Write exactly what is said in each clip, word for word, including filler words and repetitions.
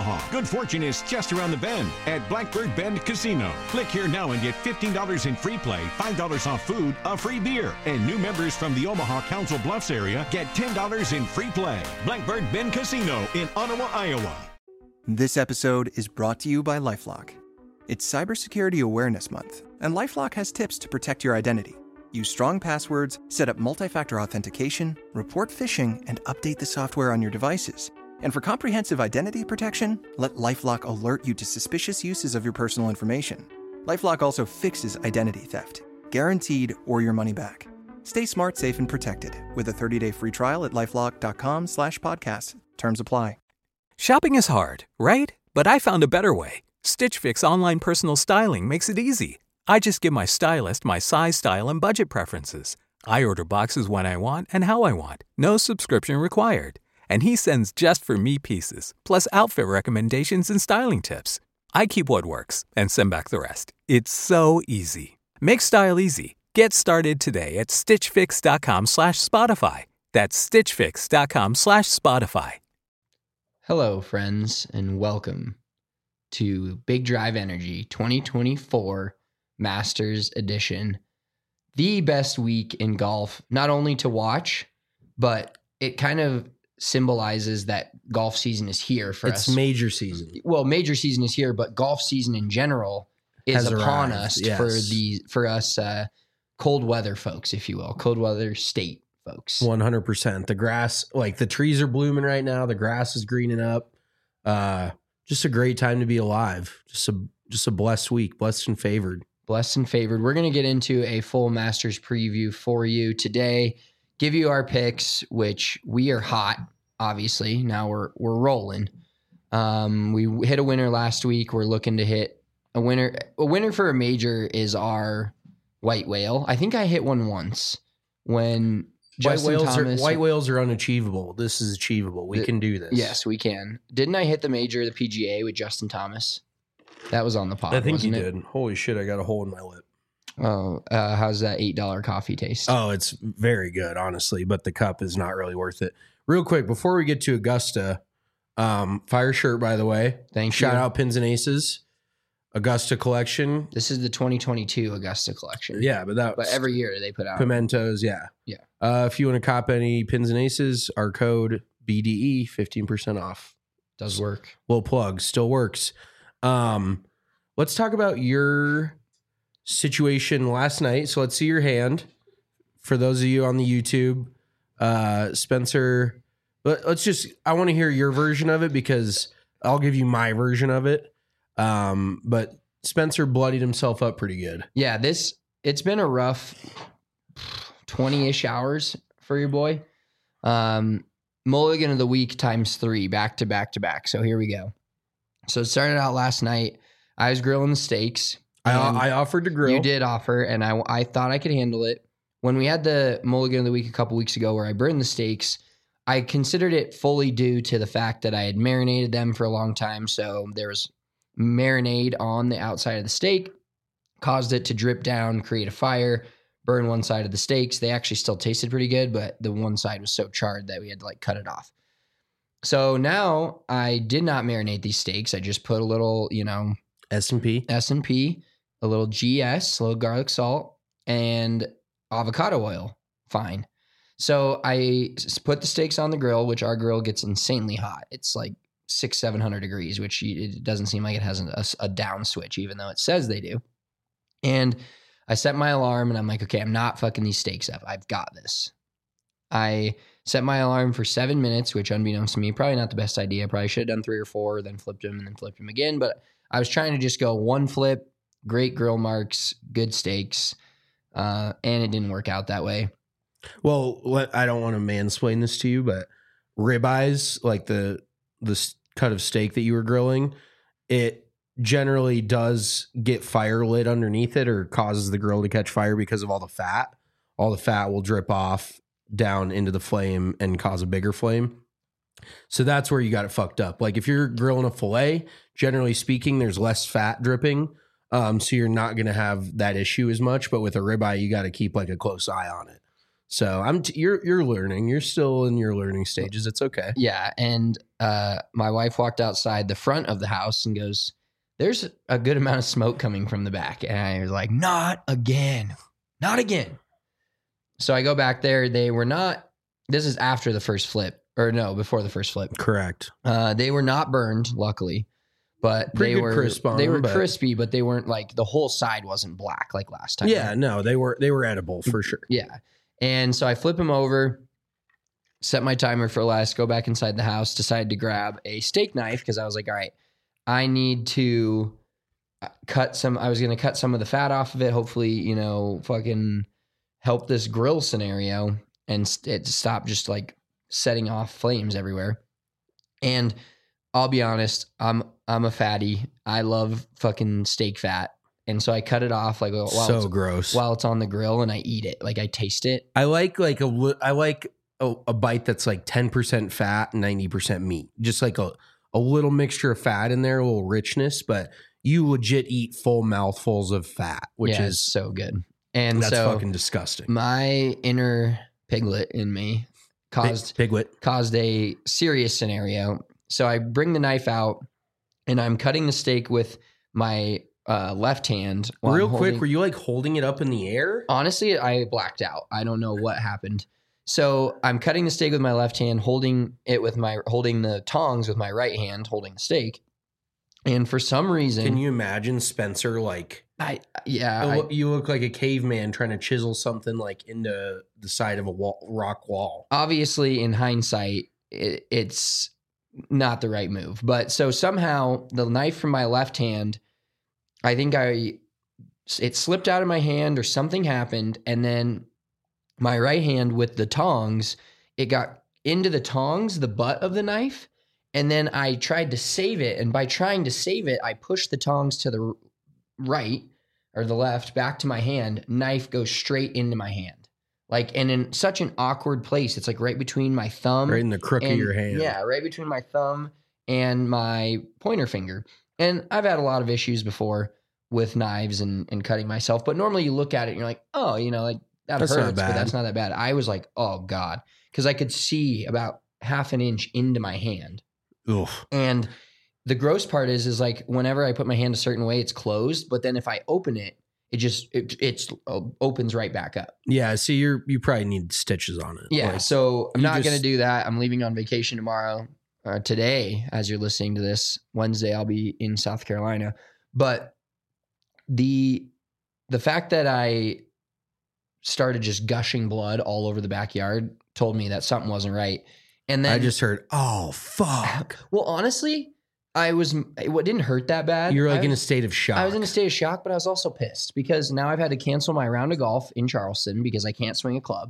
Omaha. Good fortune is just around the bend at Blackbird Bend Casino. Click here now and get fifteen dollars in free play, five dollars off food, a free beer. And new members from the Omaha Council Bluffs area get ten dollars in free play. Blackbird Bend Casino in Ottawa, Iowa. This episode is brought to you by LifeLock. It's Cybersecurity Awareness Month, and LifeLock has tips to protect your identity. Use strong passwords, set up multi-factor authentication, report phishing, and update the software on your devices. And for comprehensive identity protection, let LifeLock alert you to suspicious uses of your personal information. LifeLock also fixes identity theft, guaranteed or your money back. Stay smart, safe, and protected with a thirty-day free trial at LifeLock.com slash podcast. Terms apply. Shopping is hard, right? But I found a better way. Stitch Fix online personal styling makes it easy. I just give my stylist my size, style, and budget preferences. I order boxes when I want and how I want. No subscription required. And he sends just for me pieces, plus outfit recommendations and styling tips. I keep what works and send back the rest. It's so easy. Make style easy. Get started today at stitchfix.com slash Spotify. That's stitchfix.com slash Spotify. Hello, friends, and welcome to Big Drive Energy twenty twenty-four Masters Edition. The best week in golf, not only to watch, but it kind of symbolizes that golf season is here for it's us. It's major season. Well, major season is here, but golf season in general is Has upon arrived, us yes. for the for us uh, cold weather folks, if you will, cold weather state folks. one hundred percent. The grass, like the trees are blooming right now. The grass is greening up. Uh, just a great time to be alive. Just a just a blessed week, blessed and favored. Blessed and favored. We're going to get into a full Masters preview for you today. Give you our picks, which we are hot, obviously. Now we're we're rolling. Um, we hit a winner last week. We're looking to hit a winner. A winner for a major is our white whale. I think I hit one once when White Justin whales, Thomas, are, white whales are unachievable. This is achievable. We The- can do this. Yes, we can. Didn't I hit the major, the P G A, with Justin Thomas? That was on the pod. I think you wasn't it? did. Holy shit, I got a hole in my lip. Oh, uh, how's that eight dollar coffee taste? Oh, it's very good, honestly, but the cup is not really worth it. Real quick, before we get to Augusta, um, fire shirt, by the way. Thank Shout you. out Pins and Aces. Augusta collection. This is the twenty twenty-two Augusta collection. Yeah, but that But every year they put out. Pimentos, yeah. Yeah. Uh, if you want to cop any Pins and Aces, our code B D E, fifteen percent off. Does work. Little plug, still works. Um, let's talk about your situation last night. So let's see your hand. For those of you on the YouTube, uh, Spencer, let, let's just, I want to hear your version of it because I'll give you my version of it. Um, but Spencer bloodied himself up pretty good. Yeah, this, it's been a rough twenty-ish hours for your boy. Um, Mulligan of the week times three, back to back to back. So here we go. So it started out last night. I was grilling the steaks. I, and I offered to grill. You did offer, and I, I thought I could handle it. When we had the Mulligan of the week a couple weeks ago where I burned the steaks, I considered it fully due to the fact that I had marinated them for a long time. So there was marinade on the outside of the steak, caused it to drip down, create a fire, burn one side of the steaks. They actually still tasted pretty good, but the one side was so charred that we had to like cut it off. So now I did not marinate these steaks. I just put a little, you know, S and P. S and P, a little G S, a little garlic salt, and avocado oil. Fine. So I s- put the steaks on the grill, which our grill gets insanely hot. It's like six, seven hundred degrees, which you- it doesn't seem like it has a, a s- a down switch, even though it says they do. And I set my alarm and I'm like, okay, I'm not fucking these steaks up. I've got this. I set my alarm for seven minutes, which unbeknownst to me, probably not the best idea. Probably should have done three or four, then flipped them and then flipped them again. But I was trying to just go one flip, great grill marks, good steaks. Uh, and it didn't work out that way. Well, let, I don't want to mansplain this to you, but ribeyes, like the the s- cut of steak that you were grilling, it generally does get fire lit underneath it or causes the grill to catch fire because of all the fat. All the fat will drip off down into the flame and cause a bigger flame. So that's where you got it fucked up. Like if you're grilling a filet, generally speaking, there's less fat dripping. Um, so you're not going to have that issue as much. But with a ribeye, you got to keep like a close eye on it. So I'm t- you're you're learning. You're still in your learning stages. It's okay. Yeah. And uh, my wife walked outside the front of the house and goes, there's a good amount of smoke coming from the back. And I was like, not again. Not again. So I go back there. They were not, this is after the first flip. Or no, before the first flip. Correct. Uh, they were not burned, luckily. But Pretty they good were crisp on they them, were but- crispy, but they weren't like the whole side wasn't black like last time. Yeah, no, they were they were edible for sure. Yeah. And so I flip him over, set my timer for less, go back inside the house, decided to grab a steak knife because I was like, all right, I need to cut some, I was going to cut some of the fat off of it. Hopefully, you know, fucking help this grill scenario and st- it stop just like setting off flames everywhere. And I'll be honest, I'm I'm a fatty. I love fucking steak fat. And so I cut it off like while, So it's, gross. while it's on the grill and I eat it. Like I taste it. I like like a li- I like a, a bite that's like ten percent fat, ninety percent meat. Just like a a little mixture of fat in there, a little richness, but you legit eat full mouthfuls of fat, which Yeah, is it's so good. And that's so fucking disgusting. my inner piglet in me caused Pig, piglet. caused a serious scenario. So I bring the knife out and I'm cutting the steak with my uh, left hand. while I'm Real quick, holding- were you like holding it up in the air? Honestly, I blacked out. I don't know what happened. So I'm cutting the steak with my left hand, holding it with my holding the tongs with my right hand, holding the steak. And for some reason, Can you imagine Spencer like I yeah, you I, look- you look like a caveman trying to chisel something like into the side of a wall, rock wall. obviously in hindsight, it, it's not the right move. But so somehow the knife from my left hand, I think I it slipped out of my hand or something happened, and then my right hand with the tongs, it got into the tongs, the butt of the knife, and then I tried to save it, and by trying to save it, I pushed the tongs to the r- right or the left back to my hand. Knife goes straight into my hand. Like, and in such an awkward place. It's like right between my thumb. Right in the crook of and- your hand. Yeah, right between my thumb and my pointer finger. And I've had a lot of issues before with knives and, and cutting myself. But normally you look at it and you're like, oh, you know, like that That's not hurts, but bad. that's not that bad. I was like, oh God. Because I could see about half an inch into my hand. Oof. And the gross part is, is like whenever I put my hand a certain way, it's closed. But then if I open it, it just it it's uh, opens right back up. Yeah, see, you're you probably need stitches on it. Yeah. Like, so I'm you not going to just- do that. I'm leaving on vacation tomorrow. Or today, as you're listening to this, Wednesday, I'll be in South Carolina. But the the fact that I started just gushing blood all over the backyard told me that something wasn't right. And then I just heard, oh fuck. well, honestly, I was it didn't hurt that bad. You're like I in a was- state of shock. I was in a state of shock, but I was also pissed because now I've had to cancel my round of golf in Charleston because I can't swing a club.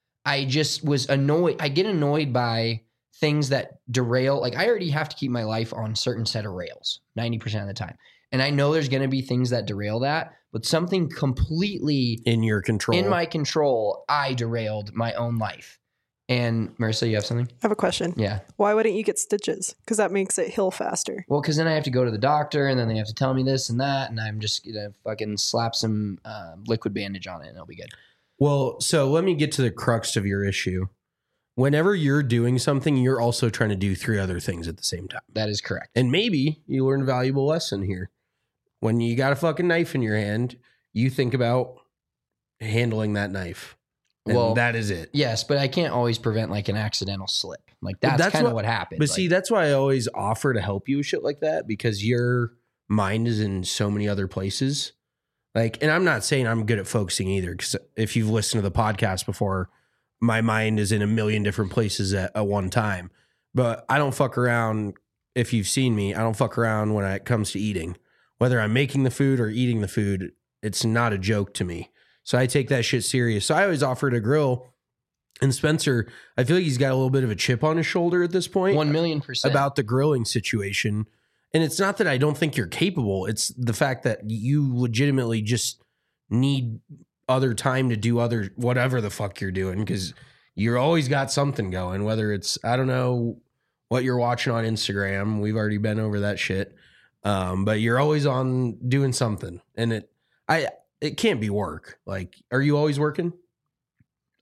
I just was annoyed. I get annoyed by things that derail. Like I already have to keep my life on a certain set of rails ninety percent of the time. And I know there's going to be things that derail that, but something completely in your control. in my control, I derailed my own life. And Marissa, you have something? I have a question. Yeah. Why wouldn't you get stitches? Because that makes it heal faster. Well, because then I have to go to the doctor, and then they have to tell me this and that, and I'm just gonna fucking slap some uh, liquid bandage on it, and it'll be good. Well, so let me get to the crux of your issue. Whenever you're doing something, you're also trying to do three other things at the same time. That is correct. And maybe you learn a valuable lesson here. When you got a fucking knife in your hand, you think about handling that knife. And Well, that is it. Yes, but I can't always prevent like an accidental slip. Like that's, that's kind of what- what happened. But Like, see, that's why I always offer to help you with shit like that, because your mind is in so many other places. Like, and I'm not saying I'm good at focusing either, because if you've listened to the podcast before, my mind is in a million different places at, at one time. But I don't fuck around. If you've seen me, I don't fuck around when it comes to eating. Whether I'm making the food or eating the food, it's not a joke to me. So I take that shit serious. So I always offer to grill. And Spencer, I feel like he's got a little bit of a chip on his shoulder at this point one million percent about the grilling situation. And it's not that I don't think you're capable. It's the fact that you legitimately just need other time to do other whatever the fuck you're doing, because you're always got something going, whether it's, I don't know what you're watching on Instagram. We've already been over that shit. Um, but you're always on doing something, and it, I, it can't be work. Like, are you always working?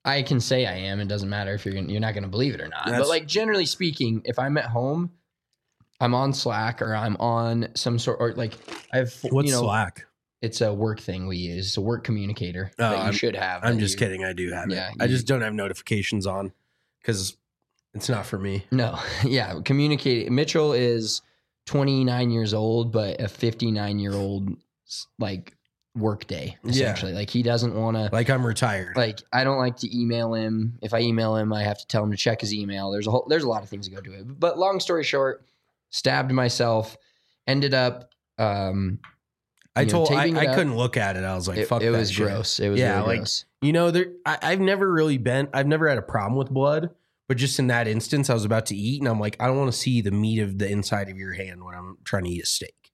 I can say I am. It doesn't matter if you're gonna, you're not going to believe it or not. That's- but like generally speaking, if I'm at home, I'm on Slack or I'm on some sort or like I have What's you know Slack? it's a work thing we use. It's a work communicator Oh, that you I'm- should have. I'm that just you- kidding. I do have Yeah, it. I you- just don't have notifications on because it's not for me. No, yeah, communicate. Mitchell is twenty-nine years old, but a fifty-nine year old like work day essentially. Like he doesn't want to. Like I'm retired. Like I don't like to email him. If I email him, I have to tell him to check his email. There's a whole, there's a lot of things that go to it. But long story short, stabbed myself. Ended up. Um, I you know, told I, taping it I up. couldn't look at it. I was like, it, fuck it that was shit. gross. It was Yeah, really like- gross. You know, there I, I've never really been. I've never had a problem with blood, but just in that instance, I was about to eat, and I'm like, I don't want to see the meat of the inside of your hand when I'm trying to eat a steak.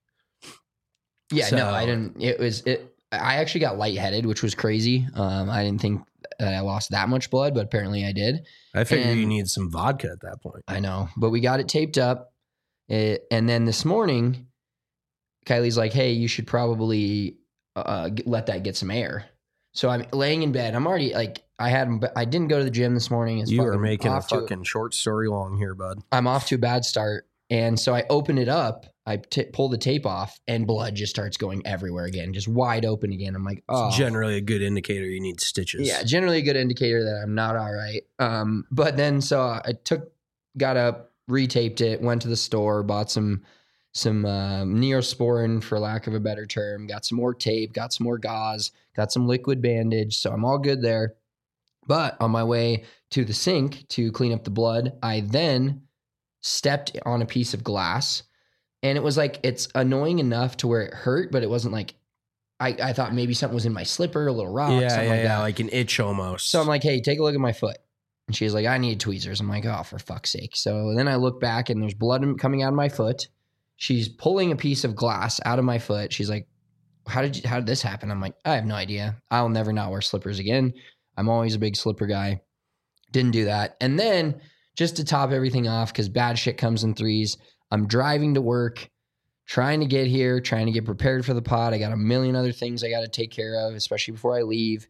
Yeah, So- no, I didn't. It was it. I actually got lightheaded, which was crazy. Um, I didn't think that I lost that much blood, but apparently I did. I figured you And- need some vodka at that point. I know, but we got it taped up. It, and then this morning, Kylie's like, "Hey, you should probably uh, get, let that get some air." So I'm laying in bed. I'm already like, I had, I didn't go to the gym this morning. It's You are fucking making a off to- fucking short story long here, bud. I'm off to a bad start, and so I open it up. I t- pull the tape off, and blood just starts going everywhere again, just wide open again. I'm like, oh, It's generally a good indicator you need stitches. yeah, generally a good indicator that I'm not all right. Um, but then so I took, got up, retaped it, went to the store, bought some some um, Neosporin for lack of a better term, got some more tape, got some more gauze, got some liquid bandage, so I'm all good there. But on my way to the sink to clean up the blood, I then stepped on a piece of glass, and it was like it's annoying enough to where it hurt, but it wasn't like I, I thought maybe something was in my slipper, a little rock, yeah, something yeah, like yeah, that. like an itch almost. So I'm like, hey, take a look at my foot. And she's like, I need tweezers. I'm like, oh, for fuck's sake. So then I look back and there's blood coming out of my foot. She's pulling a piece of glass out of my foot. She's like, how did you, how did this happen? I'm like, I have no idea. I'll never not wear slippers again. I'm always a big slipper guy. Didn't do that. And then just to top everything off, because bad shit comes in threes, I'm driving to work, trying to get here, trying to get prepared for the pod. I got a million other things I got to take care of, especially before I leave.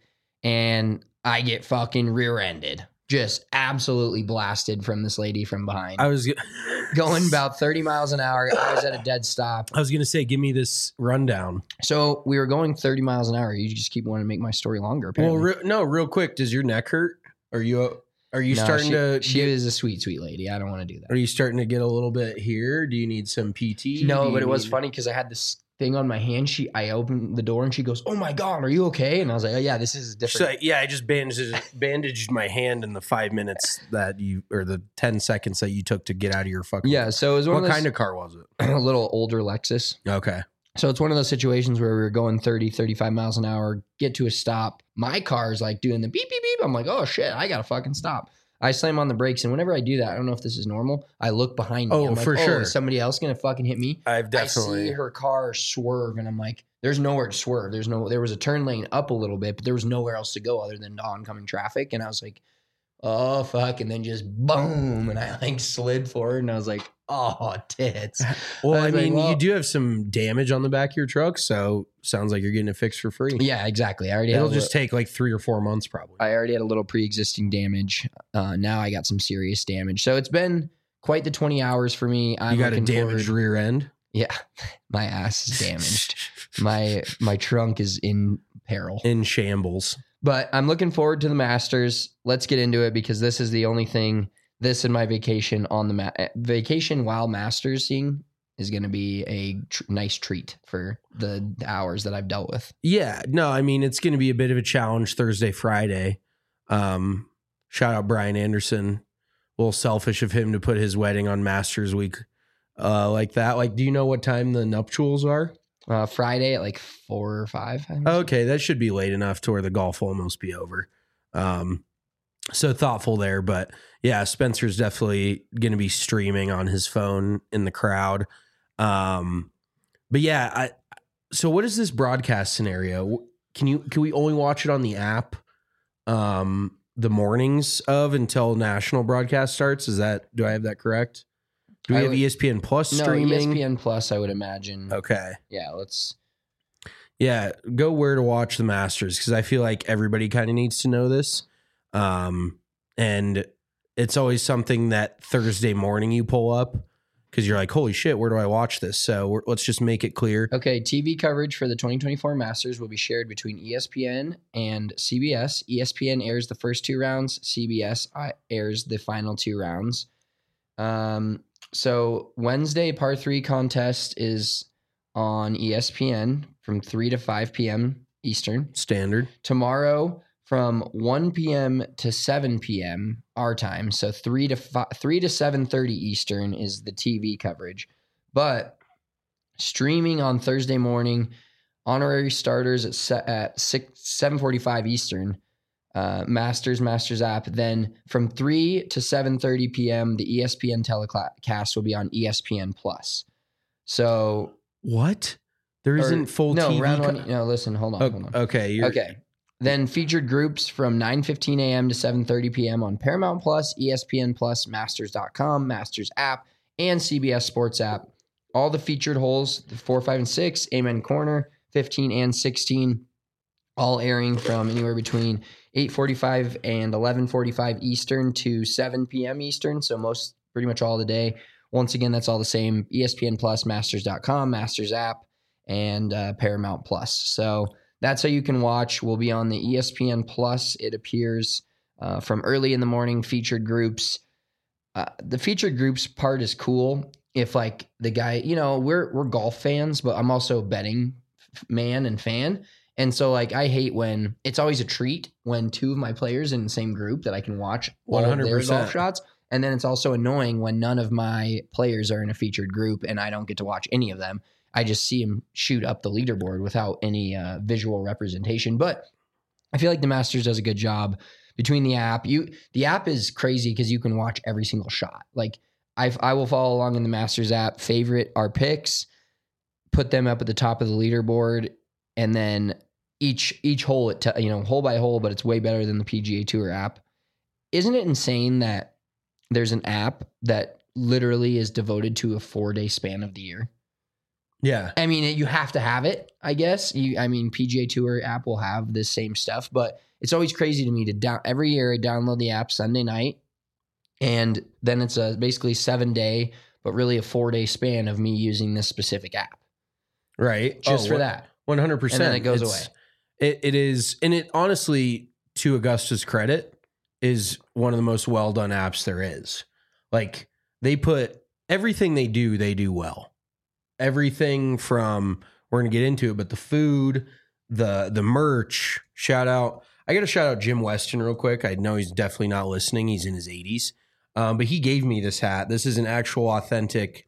And I get fucking rear-ended. Just absolutely blasted from this lady from behind. I was Going about thirty miles an hour. I was at a dead stop. I was gonna say, give me this rundown. So we were going thirty miles an hour. You just keep wanting to make my story longer, apparently. Well, re- no, real quick, does your neck hurt? Are you are you No, starting she, to? She get, is a sweet, sweet lady. I don't want to do that. Are you starting to get a little bit here? Do you need some P T? No, Do but you it was need- funny because I had this thing on my hand. She, I opened the door and she goes, "Oh my god, are you okay?" And I was like, "Oh yeah, this is She's different." like, yeah, I just bandaged bandaged my hand in the five minutes that you or the ten seconds that you took to get out of your fucking. Yeah, so it was one What of those, kind of car was it? a little older Lexus. Okay. So it's one of those situations where we were going thirty, thirty-five miles an hour, get to a stop. My car's like doing the beep, beep, beep. I'm like, oh shit, I got to fucking stop. I slam on the brakes. And whenever I do that, I don't know if this is normal. I look behind me. Oh, I'm like, for oh, sure. Is somebody else going to fucking hit me? I've I definitely. see her car swerve and I'm like, there's nowhere to swerve. There's no, there was a turn lane up a little bit, but there was nowhere else to go other than oncoming traffic. And I was like, oh fuck. And then just boom. And I like slid forward and I was like, oh tits. Well, I I was like, mean, well- you do have some damage on the back of your truck, so sounds like you're getting it fixed for free. Yeah, exactly. I already It'll had a just li- take like three or four months, probably. I already had a little pre-existing damage. Uh, now I got some serious damage. So it's been quite the twenty hours for me. I'm you got a looking damaged forward- rear end. Yeah, my ass is damaged. my my trunk is in peril. In shambles. But I'm looking forward to the Masters. Let's get into it because this is the only thing. This and my vacation on the ma- vacation while Masters seeing is going to be a tr- nice treat for the, the hours that I've dealt with. Yeah, no, I mean it's going to be a bit of a challenge Thursday, Friday. Um, shout out Brian Anderson. A little selfish of him to put his wedding on Masters Week uh, like that. Like, do you know what time the nuptials are? Uh, Friday at like four or five. I think. Okay, that should be late enough to where the golf will almost be over. Um, so thoughtful there, but yeah, Spencer's definitely going to be streaming on his phone in the crowd. Um, but yeah, I. So what is this broadcast scenario? Can you can we only watch it on the app? Um, the mornings of until national broadcast starts. Is that do I have that correct? Do we I have would- E S P N Plus No, streaming? E S P N Plus, I would imagine. Okay. Yeah, let's. Yeah, go where to watch the Masters because I feel like everybody kind of needs to know this. Um, and it's always something that Thursday morning you pull up because you're like, holy shit, where do I watch this? So we're, let's just make it clear. Okay, T V coverage for the twenty twenty-four Masters will be shared between E S P N and C B S. E S P N airs the first two rounds. C B S airs the final two rounds. Um, so Wednesday par three contest is on E S P N from three to five p.m. Eastern. Standard. Tomorrow from one p.m. to seven p.m. our time. So three to five, three to seven thirty Eastern is the T V coverage. But streaming on Thursday morning, honorary starters at se- at six seven forty-five Eastern. Uh, Masters, Masters app. Then from three to seven thirty p.m., the E S P N telecast will be on E S P N Plus. So what? There isn't full no, T V. round Co- one. No, listen, hold on, oh, hold on. Okay, you're, okay. Then featured groups from nine fifteen a.m. to seven thirty p.m. on Paramount Plus, E S P N Plus, Masters dot com, Masters app, and C B S Sports app. All the featured holes, the four, five, and six, Amen Corner, fifteen and sixteen, all airing from anywhere between eight forty-five and eleven forty-five Eastern to seven p.m. Eastern. So most, pretty much all the day. Once again, that's all the same. E S P N Plus, Masters dot com, Masters app, and uh, Paramount Plus. So that's how you can watch. We'll be on the E S P N Plus. It appears uh, from early in the morning, featured groups. Uh, the featured groups part is cool. If like the guy, you know, we're we're golf fans, but I'm also a betting man and fan. And so like I hate when it's always a treat when two of my players in the same group that I can watch all of their golf shots. And then it's also annoying when none of my players are in a featured group and I don't get to watch any of them. I just see him shoot up the leaderboard without any uh, visual representation. But I feel like the Masters does a good job between the app. You, the app is crazy because you can watch every single shot. Like I, I will follow along in the Masters app, favorite our picks, put them up at the top of the leaderboard, and then each each hole, it te- you know, hole by hole. But it's way better than the P G A Tour app. Isn't it insane that there's an app that literally is devoted to a four day span of the year? Yeah. I mean, you have to have it, I guess. You, I mean, P G A Tour app will have this same stuff, but it's always crazy to me to down every year I download the app Sunday night, and then it's a basically seven day, but really a four day span of me using this specific app. Right. Just oh, for that. one hundred percent. And then it goes it's, away. It, it is, and it honestly, to Augusta's credit, is one of the most well done apps there is. Like they put everything they do, they do well. Everything from, we're going to get into it, but the food, the the merch, shout out. I got to shout out Jim Weston real quick. I know he's definitely not listening. He's in his eighties. Um, but he gave me this hat. This is an actual authentic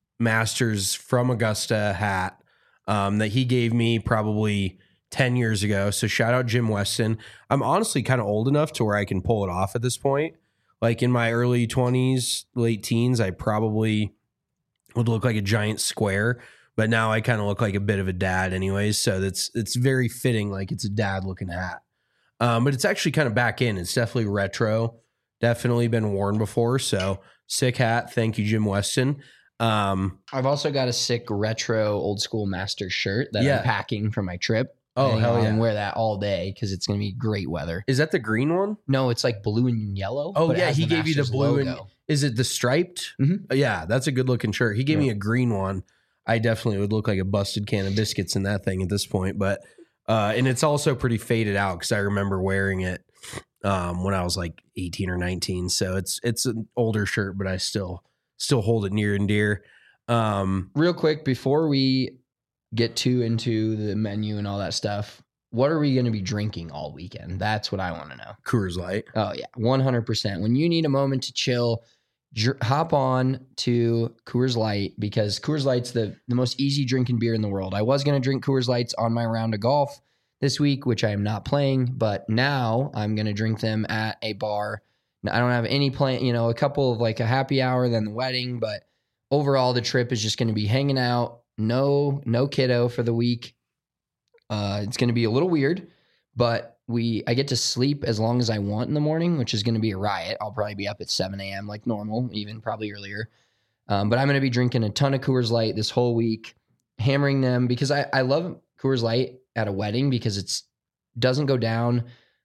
Masters from Augusta hat um, that he gave me probably ten years ago. So shout out Jim Weston. I'm honestly kind of old enough to where I can pull it off at this point. Like in my early twenties, late teens, I probably would look like a giant square, but now I kind of look like a bit of a dad anyways. So that's, it's very fitting. Like it's a dad looking hat. Um, but it's actually kind of back in. It's definitely retro, definitely been worn before. So sick hat. Thank you, Jim Weston. Um, I've also got a sick retro old school Master shirt that Yeah. I'm packing for my trip. Oh, And hell I'll yeah. wear that all day because it's going to be great weather. is that the green one? No, it's like blue and yellow. Oh but it yeah. has He gave you the Masters blue and logo. is it the striped? Mhm. Yeah. That's a good looking shirt. He gave Yeah. me a green one. I definitely would look like a busted can of biscuits in that thing at this point, but, uh, and it's also pretty faded out because I remember wearing it um, when I was like eighteen or nineteen. So it's, it's an older shirt, but I still, still hold it near and dear. Um, Real quick, before we get too into the menu and all that stuff, what are we going to be drinking all weekend? That's what I want to know. Coors Light. Oh, yeah, one hundred percent. When you need a moment to chill, dr- hop on to Coors Light because Coors Light's the, the most easy drinking beer in the world. I was going to drink Coors Lights on my round of golf this week, which I am not playing, but now I'm going to drink them at a bar. I don't have any plan, you know, a couple of like a happy hour, then the wedding, but overall the trip is just going to be hanging out. No, no kiddo for the week. Uh, it's going to be a little weird, but we I get to sleep as long as I want in the morning, which is going to be a riot. I'll probably be up at seven a.m. like normal, even probably earlier. Um, but I'm going to be drinking a ton of Coors Light this whole week, hammering them because I, I love Coors Light at a wedding because it's doesn't go down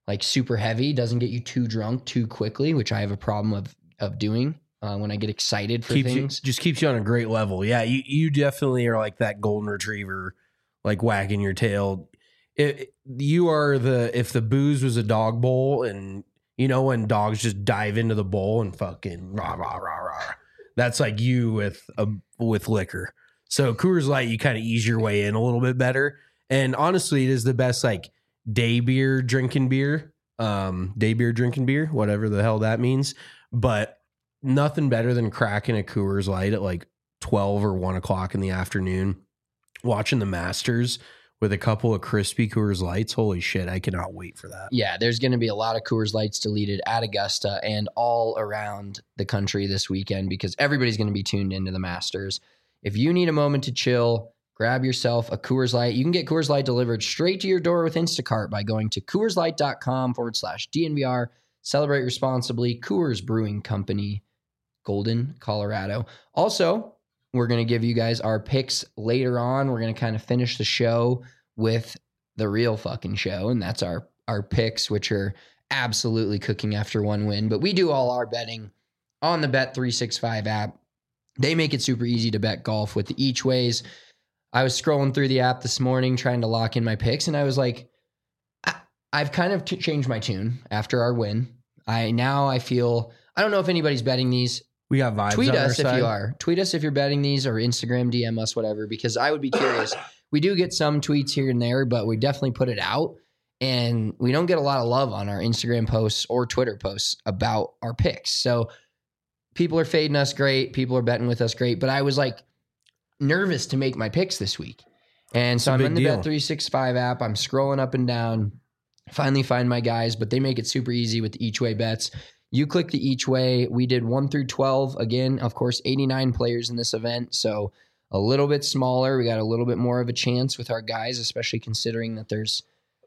like super heavy, doesn't get you too drunk too quickly, which I have a problem of of doing uh, when I get excited for keeps things. You, just keeps you on a great level. Yeah, you you definitely are like that golden retriever, like wagging your tail. It, you are the if the booze was a dog bowl, and you know when dogs just dive into the bowl and fucking rah rah rah rah. That's like you with a with liquor. So Coors Light, you kind of ease your way in a little bit better. And honestly, it is the best like day beer drinking beer, um, day beer drinking beer, whatever the hell that means. But nothing better than cracking a Coors Light at like twelve or one o'clock in the afternoon, watching the Masters with a couple of crispy Coors Lights. Holy shit, I cannot wait for that. Yeah, there's going to be a lot of Coors Lights deleted at Augusta and all around the country this weekend because everybody's going to be tuned into the Masters. If you need a moment to chill, grab yourself a Coors Light. You can get Coors Light delivered straight to your door with Instacart by going to CoorsLight.com forward slash DNVR. Celebrate responsibly. Coors Brewing Company, Golden, Colorado. Also, we're going to give you guys our picks later on. We're going to kind of finish the show with the real fucking show, and that's our, our picks, which are absolutely cooking after one win. But we do all our betting on the Bet three sixty-five app. They make it super easy to bet golf with the each ways. I was scrolling through the app this morning trying to lock in my picks, and I was like, I, I've kind of t- changed my tune after our win. I now I feel, I don't know if anybody's betting these. We got vibes. Tweet on us our if side. you are. Tweet us if you're betting these, or Instagram D M us, whatever, because I would be curious. We do get some tweets here and there, but we definitely put it out. And we don't get a lot of love on our Instagram posts or Twitter posts about our picks. So people are fading us great. People are betting with us great. But I was like nervous to make my picks this week. And so I'm in the Bet three sixty-five app. I'm scrolling up and down. Finally find my guys, but they make it super easy with the each way bets. You click the each way. We did one through twelve. Again, of course, eighty-nine players in this event. So a little bit smaller. We got a little bit more of a chance with our guys, especially considering that there's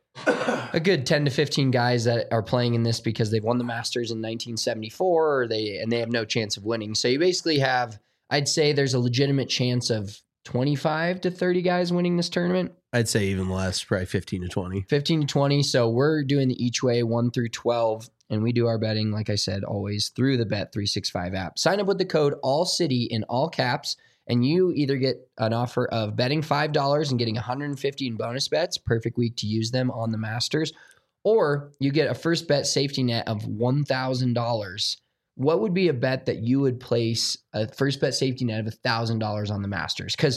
a good ten to fifteen guys that are playing in this because they've won the Masters in nineteen seventy-four or they and they have no chance of winning. So you basically have, I'd say there's a legitimate chance of twenty-five to thirty guys winning this tournament. I'd say even less, probably fifteen to twenty. fifteen to twenty. So we're doing the each way one through twelve. And we do our betting, like I said, always through the Bet three sixty-five app. Sign up with the code ALLCITY in all caps, and you either get an offer of betting five dollars and getting one hundred fifty in bonus bets, perfect week to use them on the Masters, or you get a first bet safety net of one thousand dollars. What would be a bet that you would place a first bet safety net of one thousand dollars on the Masters? Because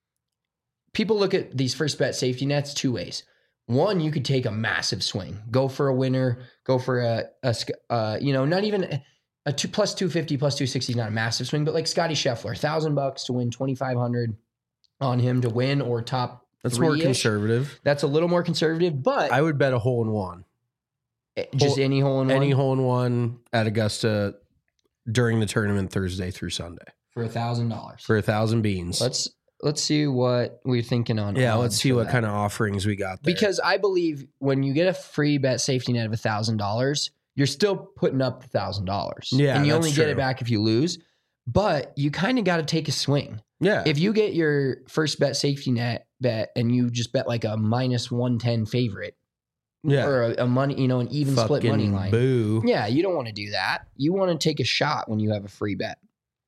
people look at these first bet safety nets two ways. One, you could take a massive swing, go for a winner, go for a, a uh, you know, not even a two plus two fifty plus two sixty is not a massive swing, but like Scotty Scheffler, thousand bucks to win twenty five hundred on him to win or top. That's more conservative. That's a little more conservative, but I would bet a hole in one, just hole, any hole in one, any hole in one at Augusta during the tournament Thursday through Sunday for a thousand dollars for a thousand beans. Let's. Let's see what we're thinking on. Yeah, let's see what that. kind of offerings we got there. Because I believe when you get a free bet safety net of one thousand dollars, you're still putting up the one thousand dollars. Yeah, and you that's only true. get it back if you lose. But you kind of got to take a swing. Yeah. If you get your first bet safety net bet and you just bet like a minus one ten favorite, yeah, or a, a money, you know, an even Fucking split money line. Boo. Yeah, you don't want to do that. You want to take a shot when you have a free bet.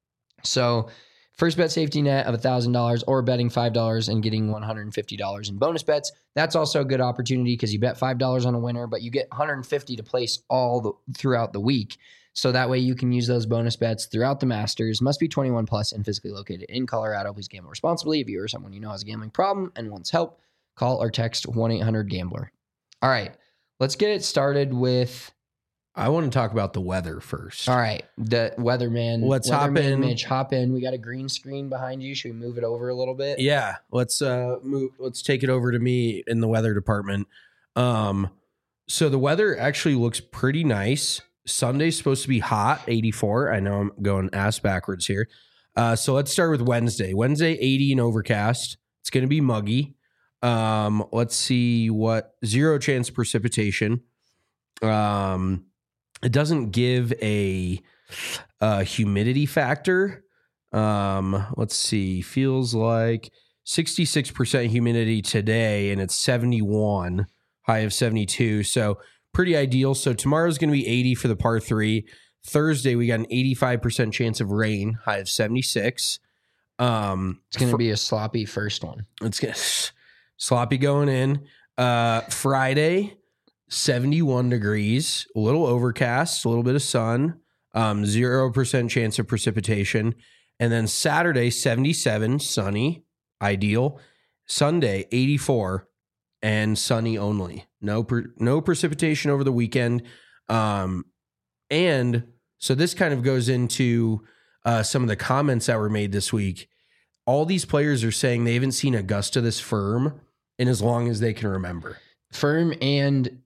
So first bet safety net of one thousand dollars or betting five dollars and getting one hundred fifty dollars in bonus bets. That's also a good opportunity because you bet five dollars on a winner, but you get one hundred fifty dollars to place all the throughout the week. So that way you can use those bonus bets throughout the Masters. Must be twenty-one plus and physically located in Colorado. Please gamble responsibly. If you or someone you know has a gambling problem and wants help, call or text one eight hundred gambler. All right, let's get it started with... I want to talk about the weather first. All right. The weatherman. Let's weatherman hop in. Mitch, hop in. We got a green screen behind you. Should we move it over a little bit? Yeah. Let's uh move let's take it over to me in the weather department. Um so the weather actually looks pretty nice. Sunday's supposed to be hot, eighty-four. I know I'm going ass backwards here. Uh so let's start with Wednesday. Wednesday, eighty and overcast. It's going to be muggy. Um let's see what zero chance of precipitation. Um It doesn't give a, a humidity factor. Um, let's see. Feels like sixty-six percent humidity today, and it's seventy-one, high of seventy-two. So pretty ideal. So tomorrow's going to be eighty for the par three. Thursday, we got an eighty-five percent chance of rain, high of seventy-six. Um, It's going to fr- be a sloppy first one. It's gonna, sloppy going in. Uh, Friday, seventy-one degrees, a little overcast, a little bit of sun, um, zero percent chance of precipitation. And then Saturday, seventy-seven, sunny, ideal. Sunday, eighty-four, and sunny only. No, per, no precipitation over the weekend. Um, and so this kind of goes into uh, some of the comments that were made this week. All these players are saying they haven't seen Augusta this firm in as long as they can remember. Firm, and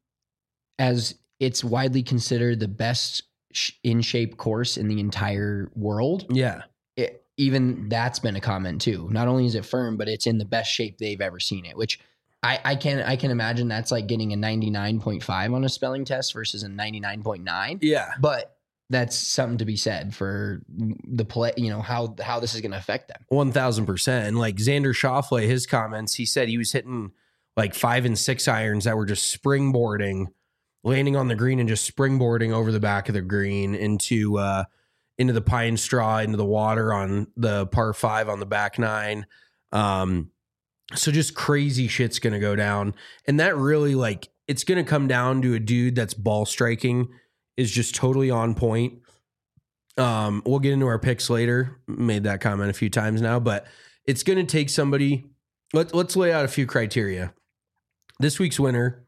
as it's widely considered the best sh- in shape course in the entire world. Yeah. It, even that's been a comment too. Not only is it firm, but it's in the best shape they've ever seen it, which I, I can I can imagine that's like getting a ninety-nine point five on a spelling test versus a ninety-nine point nine. Yeah. But that's something to be said for the play, you know, how how this is going to affect them. one thousand percent. And like Xander Schauffele, his comments, he said he was hitting like five and six irons that were just springboarding, landing on the green and just springboarding over the back of the green into uh, into the pine straw, into the water on the par five on the back nine. Um, so just crazy shit's going to go down. And that really, like, it's going to come down to a dude that's ball striking is just totally on point. Um, we'll get into our picks later. Made that comment a few times now, but it's going to take somebody. Let, let's lay out a few criteria. This week's winner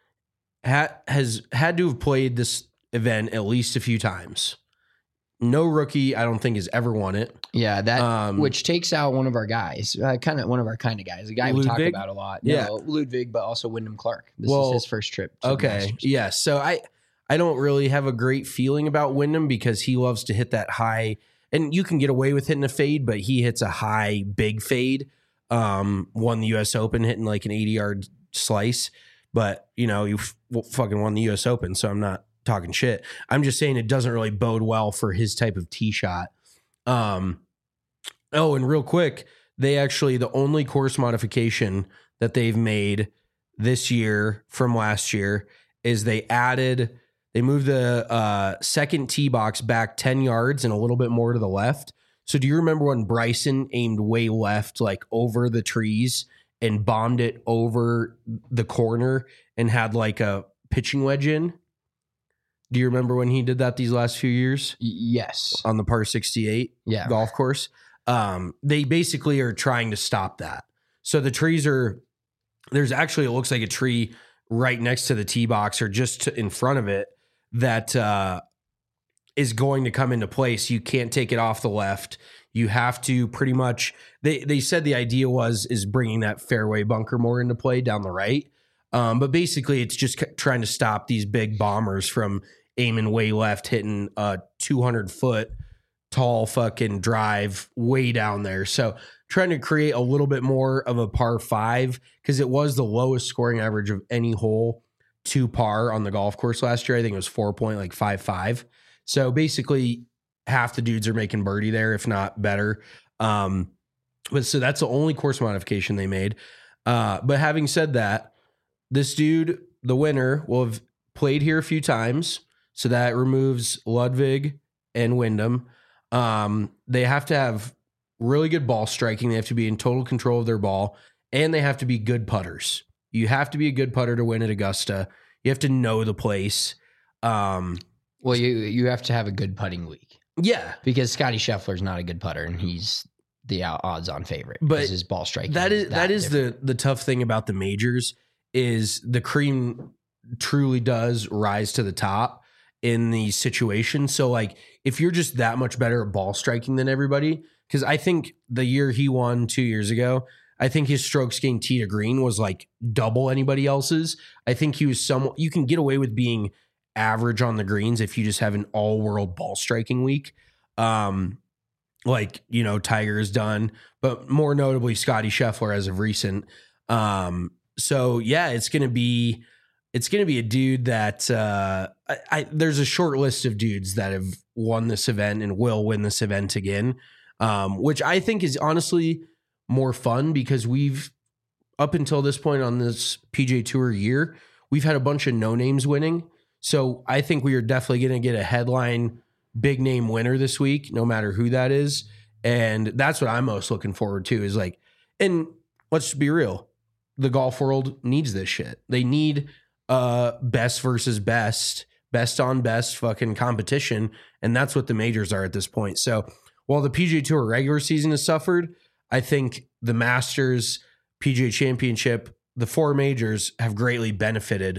ha, has had to have played this event at least a few times. No rookie, I don't think, has ever won it. Yeah, that Um, which takes out one of our guys, uh, kind of one of our kind of guys, a guy we talk Ludwig? about a lot. Yeah. No, Ludwig, but also Wyndham Clark. This Well, is his first trip. To the Okay. Masters. Yeah. So I I don't really have a great feeling about Wyndham because he loves to hit that high, and you can get away with hitting a fade, but he hits a high, big fade. Um, won the U S Open hitting like an eighty yard slice, but you know, you f- fucking won the U S Open. So I'm not talking shit. I'm just saying it doesn't really bode well for his type of tee shot. Um, oh, and real quick, they actually, the only course modification that they've made this year from last year is they added, they moved the uh, second tee box back ten yards and a little bit more to the left. So do you remember when Bryson aimed way left, like over the trees and bombed it over the corner and had like a pitching wedge in? Do you remember when he did that these last few years Y- yes. on the par sixty-eight Yeah. golf course? Um, they basically are trying to stop that. So the trees are, there's actually, it looks like a tree right next to the tee box or just to, in front of it that uh, is going to come into place. You can't take it off the left. You have to pretty much, they, they said the idea was, is bringing that fairway bunker more into play down the right. Um, but basically it's just c- trying to stop these big bombers from aiming way left, hitting a two hundred foot tall fucking drive way down there. So trying to create a little bit more of a par five because it was the lowest scoring average of any hole to par on the golf course last year. I think it was four point like five five. So basically half the dudes are making birdie there, if not better. Um, but so that's the only course modification they made. Uh, but having said that, this dude, the winner, will have played here a few times. So that removes Ludwig and Wyndham. Um, they have to have really good ball striking. They have to be in total control of their ball, and they have to be good putters. You have to be a good putter to win at Augusta. You have to know the place. Um, Well, you you have to have a good putting week yeah, because Scotty Scheffler's not a good putter, and he's the odds-on favorite. But because his ball striking. that is that is different. the the tough thing about the majors is the cream truly does rise to the top in these situations. So like if you're just that much better at ball striking than everybody, because I think the year he won two years ago, I think his strokes gained tee to green was like double anybody else's. I think he was some, you can get away with being average on the greens if you just have an all world ball striking week. Um, like, you know, Tiger has done, but more notably Scotty Scheffler as of recent. Um, so yeah, it's going to be, it's going to be a dude that, uh, I, I, there's a short list of dudes that have won this event and will win this event again. Um, which I think is honestly more fun because we've, up until this point on this P G A Tour year, we've had a bunch of no names winning. So I think we are definitely going to get a headline big name winner this week, no matter who that is. And that's what I'm most looking forward to is like, and let's just be real. The golf world needs this shit. They need uh best versus best, best on best fucking competition. And that's what the majors are at this point. So while the P G A Tour regular season has suffered, I think the Masters, P G A Championship, the four majors have greatly benefited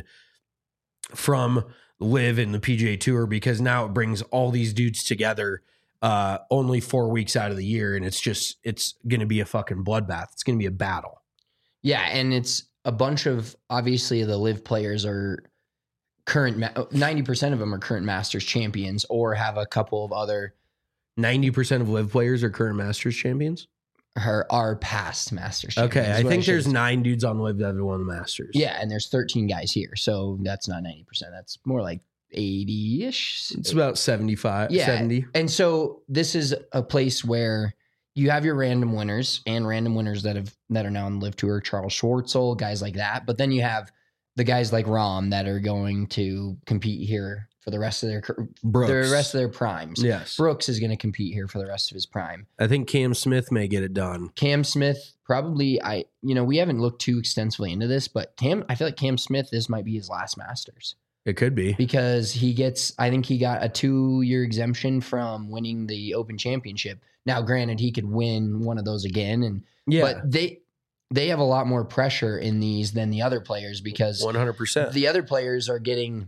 from Live in the P G A Tour because now it brings all these dudes together uh, only four weeks out of the year. And it's just, it's going to be a fucking bloodbath. It's going to be a battle. Yeah. And it's a bunch of, obviously the Live players are current, ninety percent of them are current Masters champions or have a couple of other. ninety percent of Live players are current Masters champions? Her are past Masters champions. Okay, I think I there's nine dudes on Live that have won the Masters. Yeah, and there's thirteen guys here, so that's not ninety percent. That's more like eighty-ish. It's about seventy-five, yeah, seventy. And so this is a place where you have your random winners and random winners that have that are now on the Live Tour, Charles Schwartzel, guys like that. But then you have the guys like Rahm that are going to compete here for the rest of their Brooks. the rest of their primes. Yes. Brooks is going to compete here for the rest of his prime. I think Cam Smith may get it done. Cam Smith probably I you know, we haven't looked too extensively into this, but Cam I feel like Cam Smith this might be his last Masters. It could be. Because he gets I think he got a two-year exemption from winning the Open Championship. Now granted he could win one of those again and yeah. but they they have a lot more pressure in these than the other players because one hundred percent. The other players are getting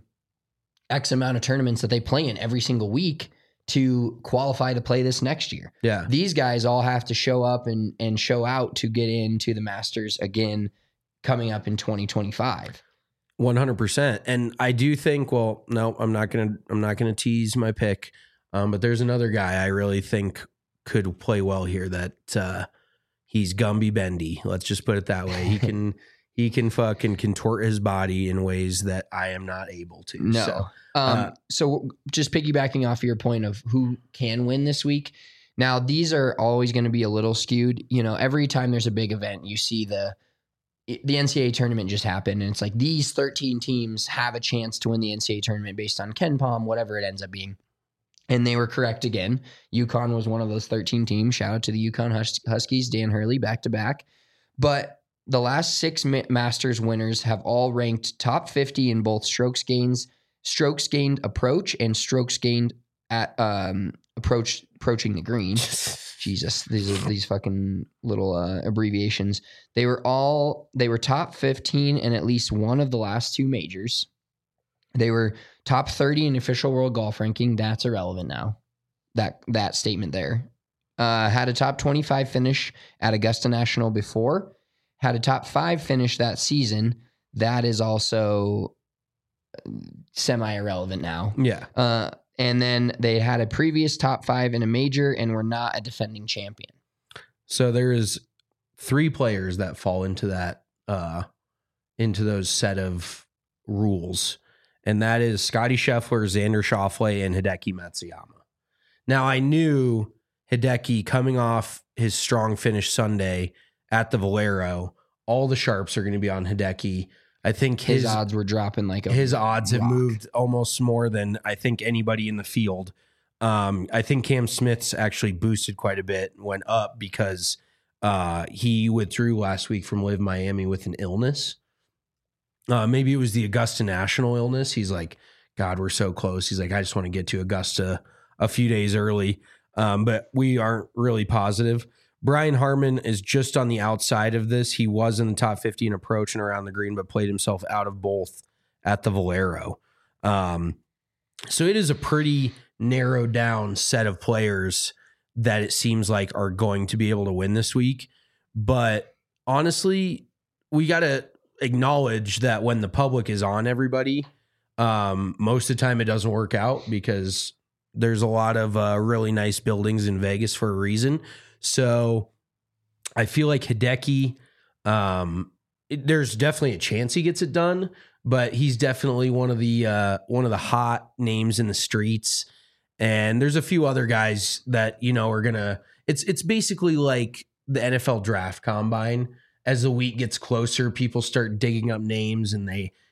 X amount of tournaments that they play in every single week to qualify to play this next year. Yeah. These guys all have to show up and, and show out to get into the Masters again coming up in twenty twenty-five. one hundred percent. And I do think, well, no, I'm not going to, I'm not going to tease my pick. Um, but there's another guy I really think could play well here that, uh, he's Gumby Bendy. Let's just put it that way. He can, he can fucking contort his body in ways that I am not able to. No. So, um, uh, so just piggybacking off your point of who can win this week. Now, these are always going to be a little skewed. You know, every time there's a big event, you see the, the N C double A tournament just happened. And it's like these thirteen teams have a chance to win the N C double A tournament based on KenPom, whatever it ends up being. And they were correct again. UConn was one of those thirteen teams. Shout out to the UConn Hus- Huskies, Dan Hurley, back to back. But the last six ma- Masters winners have all ranked top fifty in both strokes gains, strokes gained approach, and strokes gained at um, approach approaching the green. Jesus, these are these fucking little uh, abbreviations. They were all they were top fifteen in at least one of the last two majors. They were top thirty in official world golf ranking. That's irrelevant now. That that statement there. Uh, had a top twenty-five finish at Augusta National before. Had a top five finish that season. That is also semi-irrelevant now. yeah. Uh, and then they had a previous top five in a major and were not a defending champion. So there is three players that fall into that, uh, into those set of rules. And that is Scotty Scheffler, Xander Schauffele, and Hideki Matsuyama. Now, I knew Hideki coming off his strong finish Sunday at the Valero, all the sharps are going to be on Hideki. I think his, His odds were dropping like a his odds have rock. moved almost more than I think anybody in the field. Um, I think Cam Smith's actually boosted quite a bit, went up because uh, he withdrew last week from Live Miami with an illness. Uh, maybe it was the Augusta National illness. He's like, God, we're so close. He's like, I just want to get to Augusta a few days early. Um, but we aren't really positive. Brian Harman is just on the outside of this. He was in the top fifty in approach and around the green, but played himself out of both at the Valero. Um, so it is a pretty narrowed down set of players that it seems like are going to be able to win this week. But honestly, we got to acknowledge that when the public is on everybody, um, most of the time it doesn't work out because there's a lot of uh, really nice buildings in Vegas for a reason. So I feel like Hideki, um, it, there's definitely a chance he gets it done, but he's definitely one of the uh, one of the hot names in the streets. And there's a few other guys that, you know, are gonna. It's it's basically like the N F L draft combine. As the week gets closer, people start digging up names and they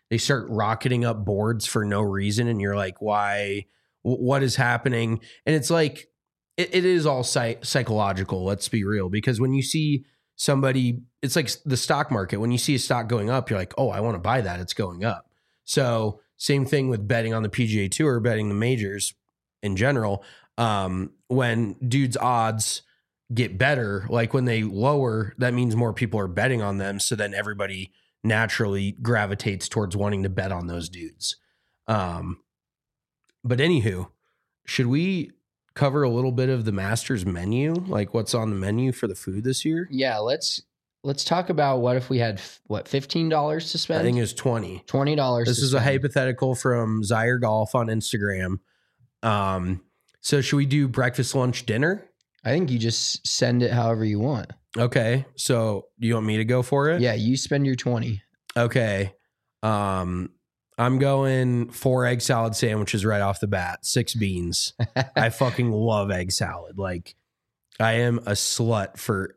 they start rocketing up boards for no reason. And you're like, why, w- what is happening? And it's like, it, it is all psych- psychological. Let's be real. Because when you see somebody, it's like the stock market. When you see a stock going up, you're like, oh, I want to buy that. It's going up. So same thing with betting on the P G A Tour, betting the majors in general. Um, when dudes' odds get better, like when they lower, that means more people are betting on them. So then everybody naturally gravitates towards wanting to bet on those dudes. Um, but anywho, should we cover a little bit of the Masters menu? Like what's on the menu for the food this year? Yeah, let's let's talk about what if we had what fifteen dollars to spend. I think it was twenty. Twenty dollars. This is spend. a hypothetical from Zaire Golf on Instagram. Um, so should we do breakfast, lunch, dinner? I think you just send it however you want. Okay. So do you want me to go for it? Yeah, you spend your twenty. Okay. Um, I'm going four egg salad sandwiches right off the bat, six beans. I fucking love egg salad. Like I am a slut for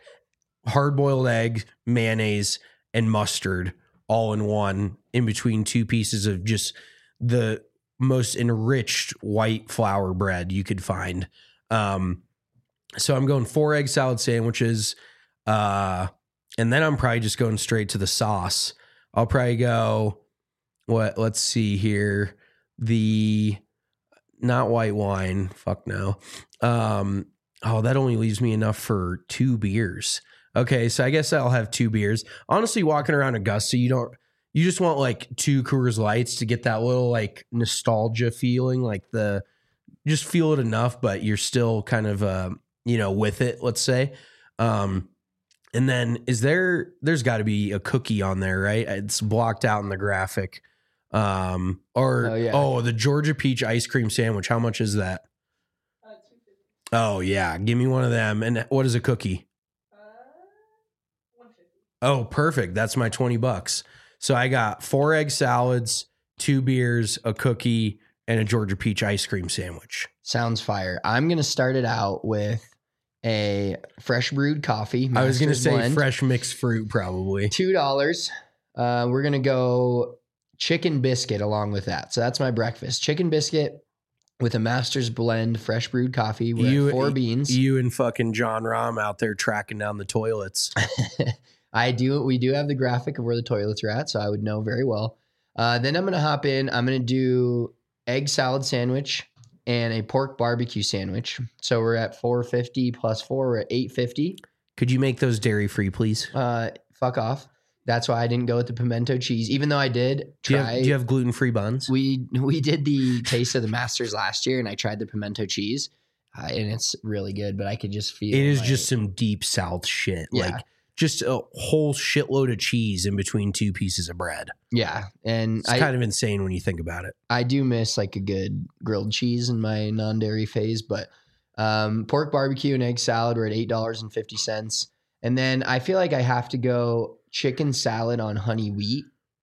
hard boiled egg, mayonnaise, and mustard all in one in between two pieces of just the most enriched white flour bread you could find. Um, so I'm going four egg salad sandwiches. Uh, and then I'm probably just going straight to the sauce. I'll probably go, what, let's see here. The, not white wine. Fuck no. Um, oh, that only leaves me enough for two beers. Okay. So I guess I'll have two beers. Honestly, walking around Augusta, you don't, you just want like two Coors Lights to get that little like nostalgia feeling, like the, just feel it enough, but you're still kind of, uh, you know, with it, let's say. Um, and then is there, there's got to be a cookie on there, right? It's blocked out in the graphic. Um, or, Oh, yeah. oh, the Georgia peach ice cream sandwich. How much is that? Uh, two fifty. Oh yeah. Give me one of them. And what is a cookie? Uh, one fifty. Oh, perfect. That's my twenty bucks. So I got four egg salads, two beers, a cookie, and a Georgia peach ice cream sandwich. Sounds fire. I'm gonna start it out with a fresh brewed coffee. I was going to Master's say Blend. fresh mixed fruit, probably. Two dollars. Uh, we're gonna go chicken biscuit along with that. So that's my breakfast. Chicken biscuit with a Master's Blend fresh brewed coffee with You- four beans. You and fucking John Rahm out there tracking down the toilets. I do. We do have the graphic of where the toilets are at, so I would know very well. Uh, then I'm gonna hop in. I'm gonna do egg salad sandwich and a pork barbecue sandwich. So we're at four fifty plus four. We're at eight fifty. Could you make those dairy free, please? Uh, fuck off. That's why I didn't go with the pimento cheese, even though I did Do you try. have, do you have gluten free buns? we we did the taste of the Masters last year, and I tried the pimento cheese, uh, and it's really good. But I could just feel It is like- just some deep South shit. Yeah. Like just a whole shitload of cheese in between two pieces of bread. yeah. And It's I kind of insane when you think about it. I do miss like a good grilled cheese in my non dairy phase, but um, pork barbecue and egg salad were at eight dollars and fifty cents, and then I feel like I have to go chicken salad on honey wheat,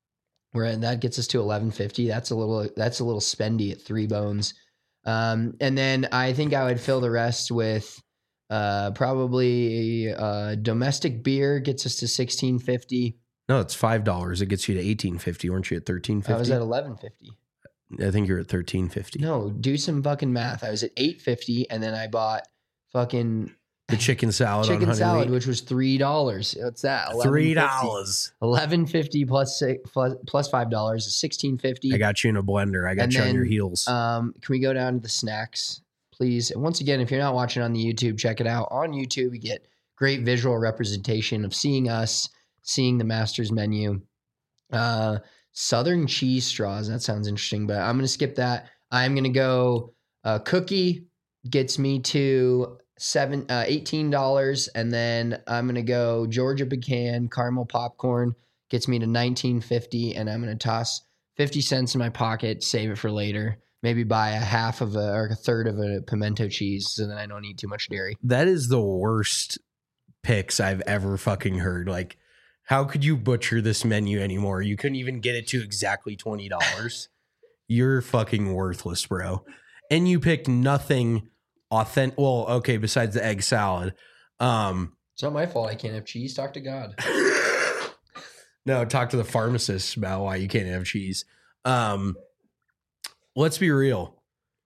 where that gets us to eleven fifty. That's a little that's a little spendy at Three Bones, um, and then I think I would fill the rest with uh, probably uh, domestic beer gets us to sixteen fifty. No, it's five dollars. It gets you to eighteen fifty. Weren't you at thirteen I was fifty? at eleven fifty. I think you're at thirteen fifty. No, do some fucking math. I was at eight fifty, and then I bought fucking The chicken salad on chicken honey salad, wheat. which was three dollars. What's that? Three dollars. Eleven fifty plus six plus plus five dollars is sixteen fifty. I got you in a blender. I got And you on then, your heels. Um, can we go down to the snacks, please? And once again, if you're not watching on the YouTube, check it out. On YouTube, you get great visual representation of seeing us, seeing the Masters menu. Uh, Southern cheese straws. That sounds interesting, but I'm going to skip that. I'm going to go uh, cookie gets me to seven uh, eighteen dollars, and then I'm going to go Georgia pecan caramel popcorn gets me to nineteen fifty, and I'm going to toss fifty cents in my pocket, save it for later. Maybe buy a half of a or a third of a pimento cheese, so then I don't eat too much dairy. That is the worst picks I've ever fucking heard. Like, how could you butcher this menu anymore? You couldn't even get it to exactly twenty dollars. You're fucking worthless, bro. And you picked nothing authentic. Well, okay, besides the egg salad. Um, It's not my fault I can't have cheese. Talk to God. No, talk to the pharmacist about why you can't have cheese. Um, let's be real.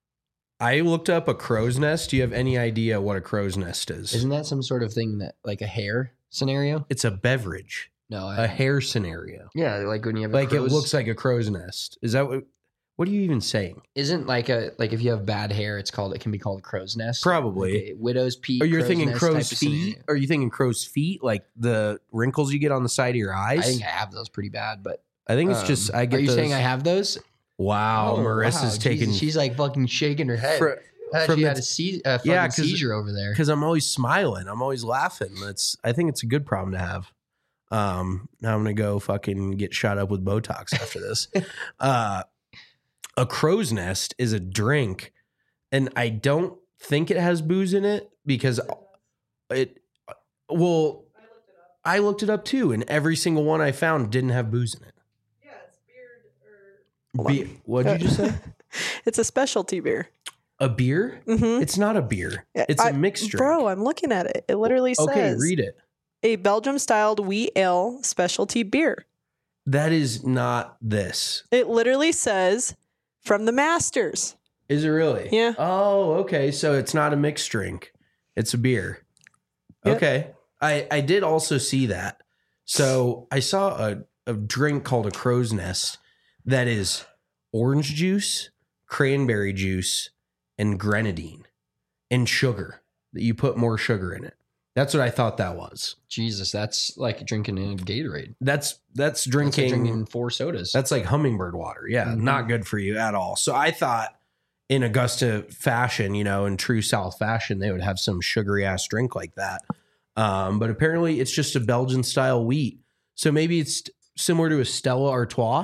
I looked up a crow's nest. Do you have any idea what a crow's nest is? Isn't that some sort of thing that like a hair scenario? It's a beverage, No, I, a hair scenario. yeah, like when you have a Like it crow's- looks like a crow's nest. Is that what? What are you even saying? Isn't like a like if you have bad hair, it's called it can be called a crow's nest. Probably. Like a widow's peak. Or you're crow's thinking nest crow's type of feet? scenario. Are you thinking crow's feet, like the wrinkles you get on the side of your eyes? I think I have those pretty bad, but I think it's um, just I get. Are you those- saying I have those? Wow, Oh, Marissa's wow, taking. Jesus, she's like fucking shaking her head. fr- I thought from she the- had a, se- a fucking Yeah, 'cause- seizure over there. because I'm always smiling. I'm always laughing. That's I think it's a good problem to have. Um, now I'm gonna go fucking get shot up with Botox after this. uh, a crow's nest is a drink, and I don't think it has booze in it because it. Well, I looked it up too, and every single one I found didn't have booze in it. Yeah, it's beard or. Be- what'd you just say? It's a specialty beer. A beer? Mm-hmm. It's not a beer. It's a I- mixed drink. Bro, I'm looking at it. It literally says Okay, read it. a Belgium-styled wheat ale specialty beer. That is not this. It literally says from the Masters. Is it really? Yeah. Oh, okay. So it's not a mixed drink. It's a beer. Yep. Okay. I, I did also see that. So I saw a, a drink called a crow's nest that is orange juice, cranberry juice, and grenadine and sugar. That you put more sugar in it. That's what I thought that was. Jesus, that's like drinking a Gatorade. That's that's That's like drinking drinking four sodas. That's like hummingbird water. Yeah, Mhm. not good for you at all. So I thought in Augusta fashion, you know, in true South fashion, they would have some sugary ass drink like that. Um, but apparently it's just a Belgian style wheat. So maybe it's similar to a Stella Artois.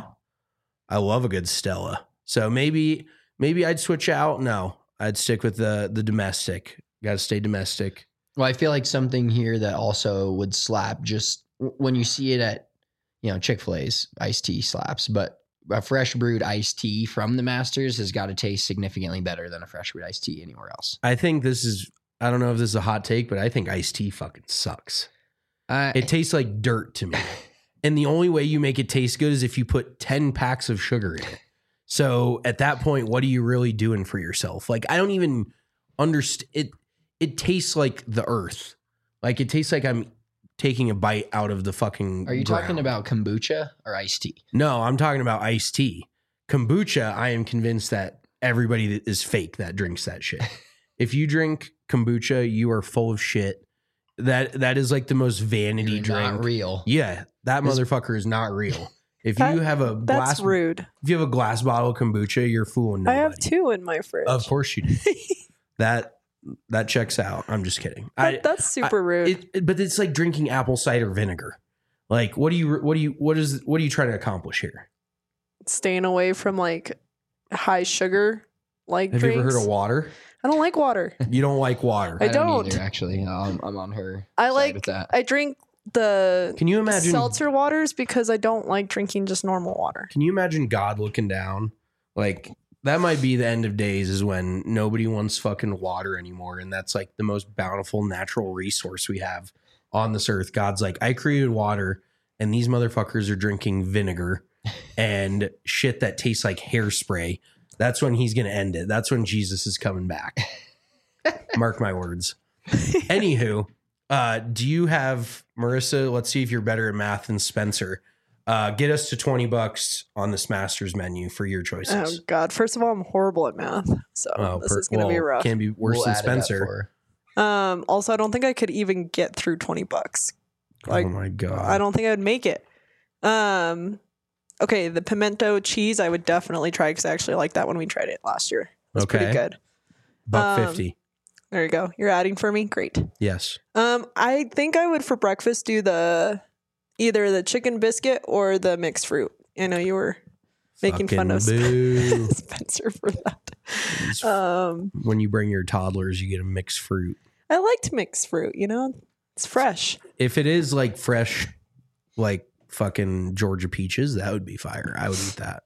I love a good Stella. So maybe maybe I'd switch out. No, I'd stick with the the domestic. Got to stay domestic. Well, I feel like something here that also would slap just w- when you see it at, you know, Chick-fil-A's iced tea slaps, but a fresh brewed iced tea from the Masters has got to taste significantly better than a fresh brewed iced tea anywhere else. I think this is, I don't know if this is a hot take, but I think iced tea fucking sucks. Uh, It tastes like dirt to me. And the only way you make it taste good is if you put ten packs of sugar in it. So at that point, what are you really doing for yourself? Like, I don't even understand it. It tastes like the earth. Like it tastes like I'm taking a bite out of the fucking are you talking ground. about kombucha or iced tea? No, I'm talking about iced tea. Kombucha, I am convinced that everybody that is fake that drinks that shit. If you drink kombucha, you are full of shit. That that is like the most vanity You're drink. not real. Yeah, that This- motherfucker is not real. If That- you have a glass, That's rude. if you have a glass bottle of kombucha, you're fooling I nobody. have two in my fridge. Of course you do. that that checks out. I'm just kidding. I, That- that's super rude. it, it- but it's like drinking apple cider vinegar. Like, what do you what do you what is what are you trying to accomplish here? Staying away from like high sugar like Have drinks. you ever heard of water? I don't like water. You don't like water. I don't. either, actually. I'm, I'm on her. I side like with that. I drink the Can you imagine? seltzer waters because I don't like drinking just normal water. Can you imagine God looking down? Like that might be the end of days is when nobody wants fucking water anymore. And that's like the most bountiful natural resource we have on this earth. God's like, I created water and these motherfuckers are drinking vinegar and shit that tastes like hairspray. That's when he's going to end it. That's when Jesus is coming back. Mark my words. Anywho, uh, do you have, Marissa, let's see if you're better at math than Spencer. Uh, get us to twenty bucks on this Masters menu for your Oh choices. God! First of all, I'm horrible at math, so Oh, this per- is gonna be well, rough. Can't be worse We'll than add it up Spencer. for Um, also, I don't think I could even get through twenty bucks. Like, oh my God. I don't think I would make it. Um, okay, the pimento cheese I would definitely try because I actually liked that when we tried it last year. It's Okay. pretty good. Buck um, fifty. There you go. You're adding for me. Great. Yes. Um, I think I would for breakfast do the either the chicken biscuit or the mixed fruit. I know you were making fun of Fucking boo. Spencer for that. Um, When you bring your toddlers, you get a mixed fruit. I liked mixed fruit. You know, it's fresh. If it is like fresh, like fucking Georgia peaches, that would be fire. I would eat that.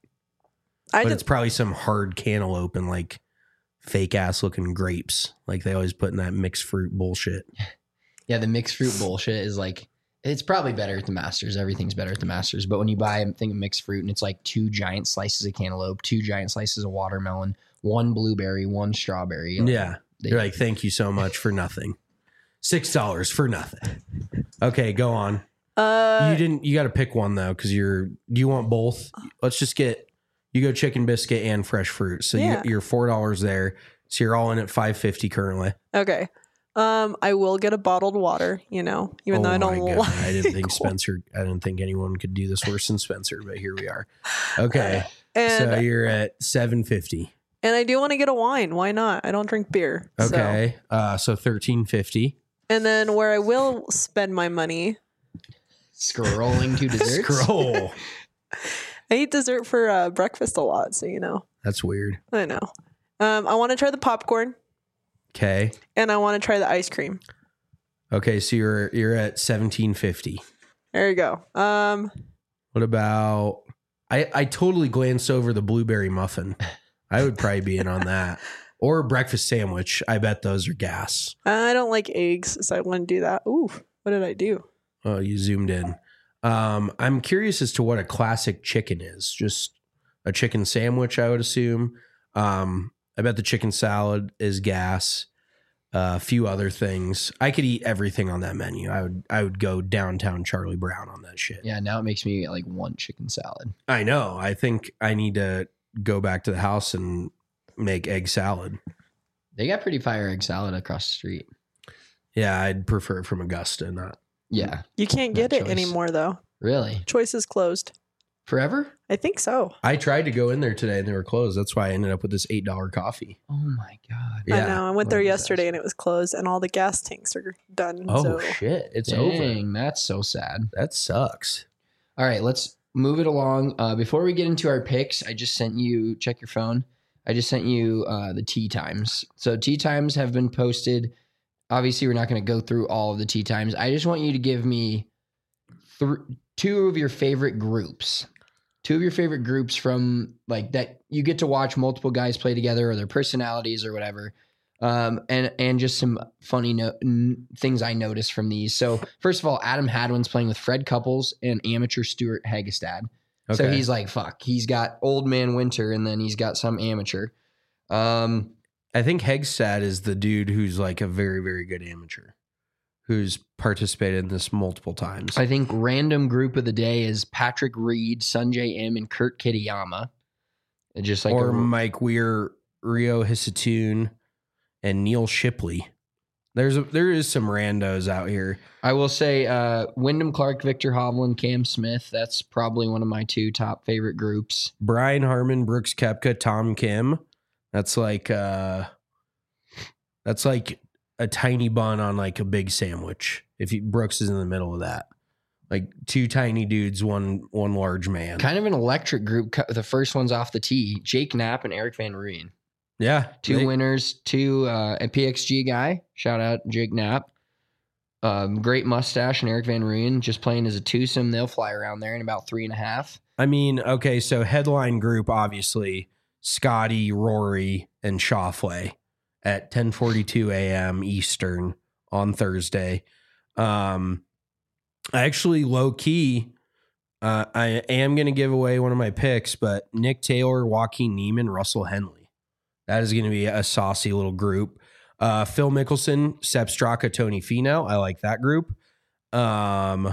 I But did, it's probably some hard cantaloupe and like fake ass looking grapes. Like they always put in that mixed fruit bullshit. Yeah, the mixed fruit bullshit is like It's probably better at the Masters. Everything's better at the Masters. But when you buy a thing of mixed fruit and it's like two giant slices of cantaloupe, two giant slices of watermelon, one blueberry, one strawberry. Like, yeah. they- You're like, thank you so much for nothing. Six dollars for nothing. Okay, go on. Uh, you didn't. You got to pick one though, because you're. Do you want both? Let's just get. You go chicken biscuit and fresh fruit. So Yeah. you, you're four dollars there. So you're all in at five fifty currently. Okay. Um, I will get a bottled water, you know, even oh though I my don't God. like I didn't think cold. Spencer. I didn't think anyone could do this worse than Spencer, but here we are. Okay, And so you're at seven fifty. and I do want to get a wine. Why not? I don't drink beer. so- Okay, uh, so thirteen fifty. And then where I will spend my money, Scrolling to desserts. Scroll. I eat dessert for uh, breakfast a lot, so you know. That's weird. I know. Um, I want to try the popcorn Okay. and I want to try the ice cream. Okay, so you're you're at seventeen fifty. There you go. Um, What about? I I totally glanced over the blueberry muffin. I would probably be in on that. Or a breakfast sandwich. I bet those are gas. I don't like eggs, so I wouldn't do that. Ooh, what did I do? Oh, you zoomed in. Um, I'm curious as to what a classic chicken is. Just a chicken sandwich, I would assume. Um, I bet the chicken salad is gas. Uh, a few other things. I could eat everything on that menu. I would. I would go downtown Charlie Brown on that shit. Yeah, now it makes me like one chicken salad. I know. I think I need to go back to the house and make egg salad. They got pretty fire egg salad across the street. Yeah, I'd prefer it from Augusta, not. Yeah. You can't get Not it choice. anymore, though. Really? Choice is closed. Forever? I think so. I tried to go in there today and they were closed. That's why I ended up with this eight dollar coffee. Oh my God. Yeah. I know. I went What there a yesterday disaster. and it was closed, and all the gas tanks are done. Oh so. shit! It's over. Dang, that's so sad. That sucks. All right, let's move it along. Uh, before we get into our picks, I just sent you, check your phone. I just sent you uh, the tea times. So tea times have been posted. Obviously, we're not going to go through all of the tea times. I just want you to give me th- two of your favorite groups. Two of your favorite groups from like that you get to watch multiple guys play together or their personalities or whatever. Um, and and just some funny no- n- things I noticed from these. So first of all, Adam Hadwin's playing with Fred Couples and amateur Stuart Hagestad. So Okay. he's like, fuck, he's got Old Man Winter and then he's got some amateur. Um, I think Hegstad is the dude who's like a very, very good amateur who's participated in this multiple times. I think random group of the day is Patrick Reed, Sanjay M, and Kurt Kitayama. And just like or a, Mike Weir, Rio Hisatoon, and Neil Shipley. There's a, there is some randos out here. I will say uh, Wyndham Clark, Victor Hovland, Cam Smith. That's probably one of my two top favorite groups. Brian Harmon, Brooks Koepka, Tom Kim. That's like uh that's like a tiny bun on like a big sandwich. If you, Brooks is in the middle of that. Like two tiny dudes, one one large man. Kind of an electric group. Co- The first one's off the tee. Jake Knapp and Eric Van Rooyen. Yeah. Two they- winners, two uh, a P X G guy. Shout out Jake Knapp. Um, great mustache and Eric Van Rooyen just playing as a twosome. They'll fly around there in about three and a half. I mean, okay, so headline group, obviously, Scotty, Rory, and Schauffele at ten forty-two a.m. Eastern on Thursday. Um, I actually, low-key, uh, I am going to give away one of my picks, but Nick Taylor, Joaquin Neiman, Russell Henley. That is going to be a saucy little group. Uh, Phil Mickelson, Sepp Straka, Tony Finau. I like that group. Um,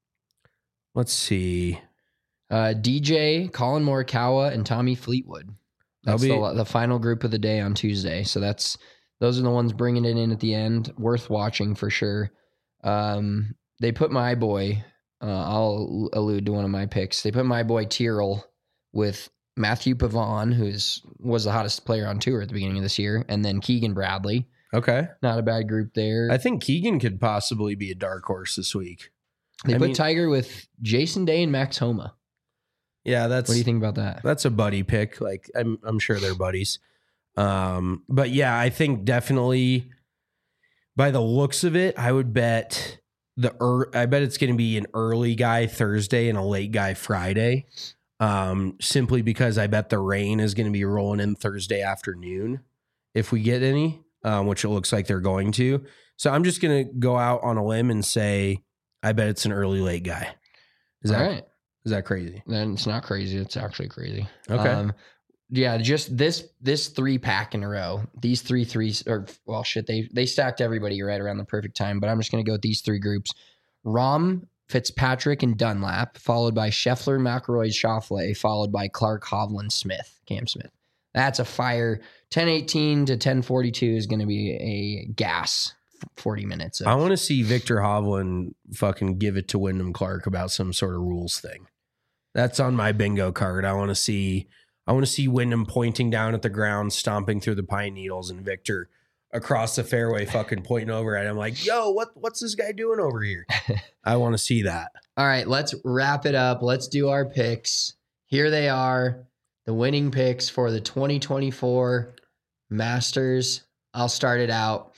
let's see. Uh, D J, Colin Morikawa, and Tommy Fleetwood. That's That'll the, the final group of the day on Tuesday. So that's those are the ones bringing it in at the end. Worth watching for sure. Um, they put my boy. Uh, I'll allude to one of my picks. They put my boy Tyrrell with Matthew Pavon, who's was the hottest player on tour at the beginning of this year, and then Keegan Bradley. Okay. Not a bad group there. I think Keegan could possibly be a dark horse this week. they I put mean- Tiger with Jason Day and Max Homa. Yeah, that's What do you think about that? that's a buddy pick. Like I'm I'm sure they're buddies. Um, but yeah, I think definitely by the looks of it, I would bet the er, I bet it's going to be an early guy Thursday and a late guy Friday. Um, simply because I bet the rain is going to be rolling in Thursday afternoon if we get any, um, which it looks like they're going to. So I'm just going to go out on a limb and say I bet it's an early late guy. Is that All right. is that crazy? Then it's not crazy. It's actually crazy. Okay. Um, yeah, just this this three pack in a row. These three threes, or well, shit, they they stacked everybody right around the perfect time. But I'm just gonna go with these three groups: Rahm, Fitzpatrick, and Dunlap, followed by Scheffler, McIlroy, Schauffele, followed by Clark, Hovland, Smith, Cam Smith. That's a fire. ten eighteen to ten forty-two is gonna be a gas forty minutes. Of, I want to see Victor Hovland fucking give it to Wyndham Clark about some sort of rules thing. That's on my bingo card. I want to see. I want to see Wyndham pointing down at the ground, stomping through the pine needles, and Victor across the fairway fucking pointing over at him like, yo, what what's this guy doing over here? I want to see that. All right, let's wrap it up. Let's do our picks. Here they are, the winning picks for the twenty twenty-four Masters. I'll start it out.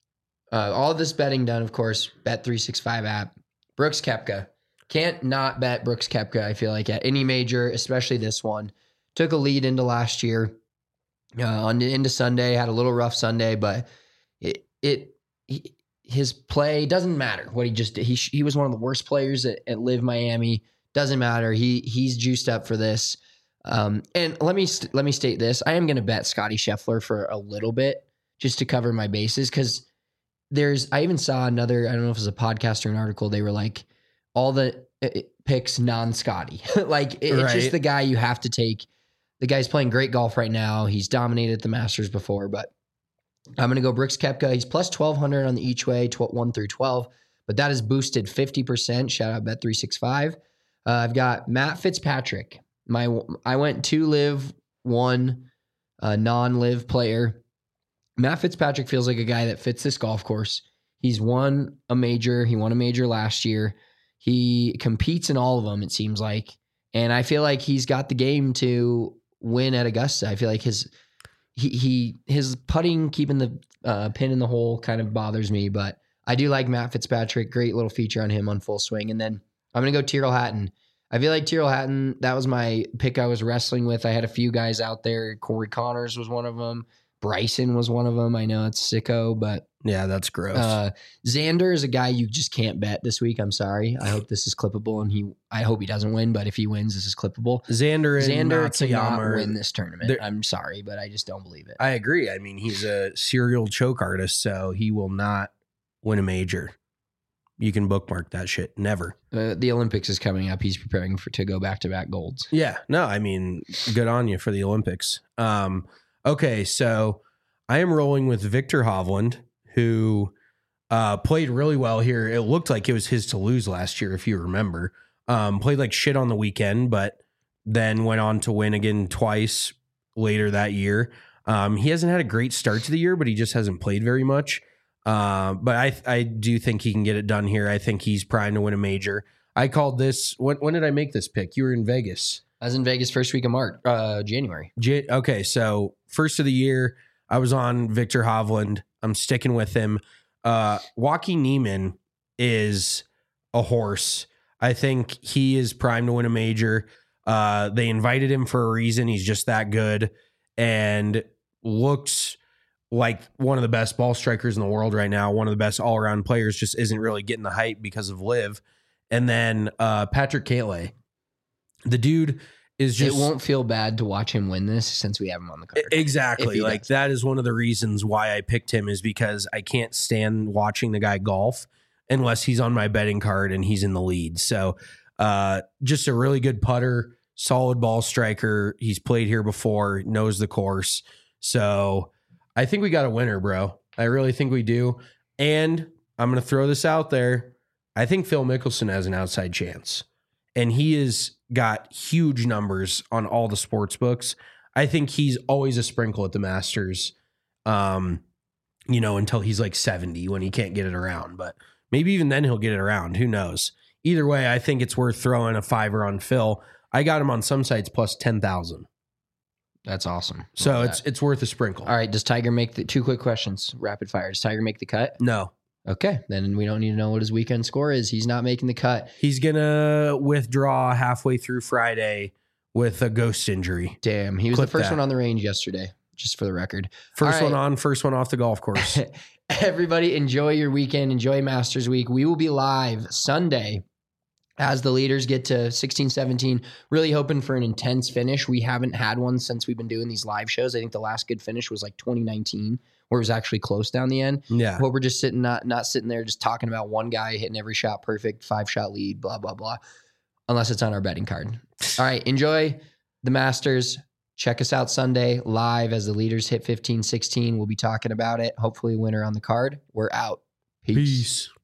Uh, all this betting done, of course, Bet three sixty-five app. Brooks Koepka. Can't not bet Brooks Koepka, I feel like, at any major, especially this one. Took a lead into last year, uh, on into Sunday. Had a little rough Sunday, but it it he, his play doesn't matter. What he just did, he he was one of the worst players at, at Live Miami. Doesn't matter. He he's juiced up for this. Um, and let me st- let me state this: I am going to bet Scotty Scheffler for a little bit just to cover my bases, because there's I even saw another. I don't know if it was a podcast or an article. They were like all the uh, picks non-Scotty. Like it, it's Right. just the guy you have to take. The guy's playing great golf right now. He's dominated the Masters before, but I'm going to go Brooks Koepka. He's plus twelve hundred on the each way, one through twelve, but that is boosted fifty percent. Shout out Bet three sixty-five. Uh, I've got Matt Fitzpatrick. My I went two live, one uh, non-live player. Matt Fitzpatrick feels like a guy that fits this golf course. He's won a major. He won a major last year. He competes in all of them, it seems like. And I feel like he's got the game to win at Augusta. I feel like his he he his putting, keeping the uh, pin in the hole kind of bothers me, but I do like Matt Fitzpatrick. Great little feature on him on Full Swing. And then I'm going to go Tyrrell Hatton. I feel like Tyrrell Hatton, that was my pick I was wrestling with. I had a few guys out there. Corey Connors was one of them. Bryson was one of them. I know it's sicko, but Yeah, that's gross. uh, Xander is a guy you just can't bet this week. I'm sorry. I hope this is clippable, and he. I hope he doesn't win, but if he wins, this is clippable. Xander and Xander Matsuyama cannot are- win this tournament. they're- I'm sorry, but I just don't believe it. I agree. I mean, he's a serial choke artist, so he will not win a major. You can bookmark that shit. Never. Uh, the Olympics is coming up. He's preparing for to go back to back golds. Yeah. No, I mean, good on you for the Olympics. Um, okay, so I am rolling with Victor Hovland, who uh, played really well here. It looked like it was his to lose last year, if you remember. Um, played like shit on the weekend, but then went on to win again twice later that year. Um, he hasn't had a great start to the year, but he just hasn't played very much. Uh, but I I do think he can get it done here. I think he's primed to win a major. I called this. When, when did I make this pick? You were in Vegas. I was in Vegas first week of March, uh, January. J- okay, so first of the year, I was on Victor Hovland. I'm sticking with him. Uh, Joaquin Niemann is a horse. I think he is primed to win a major. Uh, they invited him for a reason. He's just that good and looks like one of the best ball strikers in the world right now. One of the best all-around players, just isn't really getting the hype because of Liv. And then uh, Patrick Cantlay. The dude is just... It won't feel bad to watch him win this since we have him on the card. If Exactly. he Like does. that is one of the reasons why I picked him, is because I can't stand watching the guy golf unless he's on my betting card and he's in the lead. So uh, just a really good putter, solid ball striker. He's played here before, knows the course. So I think we got a winner, bro. I really think we do. And I'm going to throw this out there. I think Phil Mickelson has an outside chance. And he has got huge numbers on all the sports books. I think he's always a sprinkle at the Masters, um, you know, until he's like seventy when he can't get it around. But maybe even then he'll get it around. Who knows? Either way, I think it's worth throwing a fiver on Phil. I got him on some sites plus ten thousand. That's awesome. So Love it's that. it's worth a sprinkle. All right. Does Tiger make the two quick questions? Rapid fire. Does Tiger make the cut? No. Okay. Then we don't need to know what his weekend score is. He's not making the cut. He's going to withdraw halfway through Friday with a ghost injury. Damn. He was Clip the first that. one on the range yesterday, just for the record. First All one right. on, first one off the golf course. Everybody enjoy your weekend. Enjoy Masters Week. We will be live Sunday as the leaders get to sixteen, seventeen. Really hoping for an intense finish. We haven't had one since we've been doing these live shows. I think the last good finish was like twenty nineteen, where it was actually close down the end. Yeah. But we're just sitting, not not sitting there just talking about one guy hitting every shot perfect, five shot lead, blah, blah, blah. Unless it's on our betting card. All right. Enjoy the Masters. Check us out Sunday live as the leaders hit fifteen, sixteen. We'll be talking about it. Hopefully winner on the card. We're out. Peace. Peace.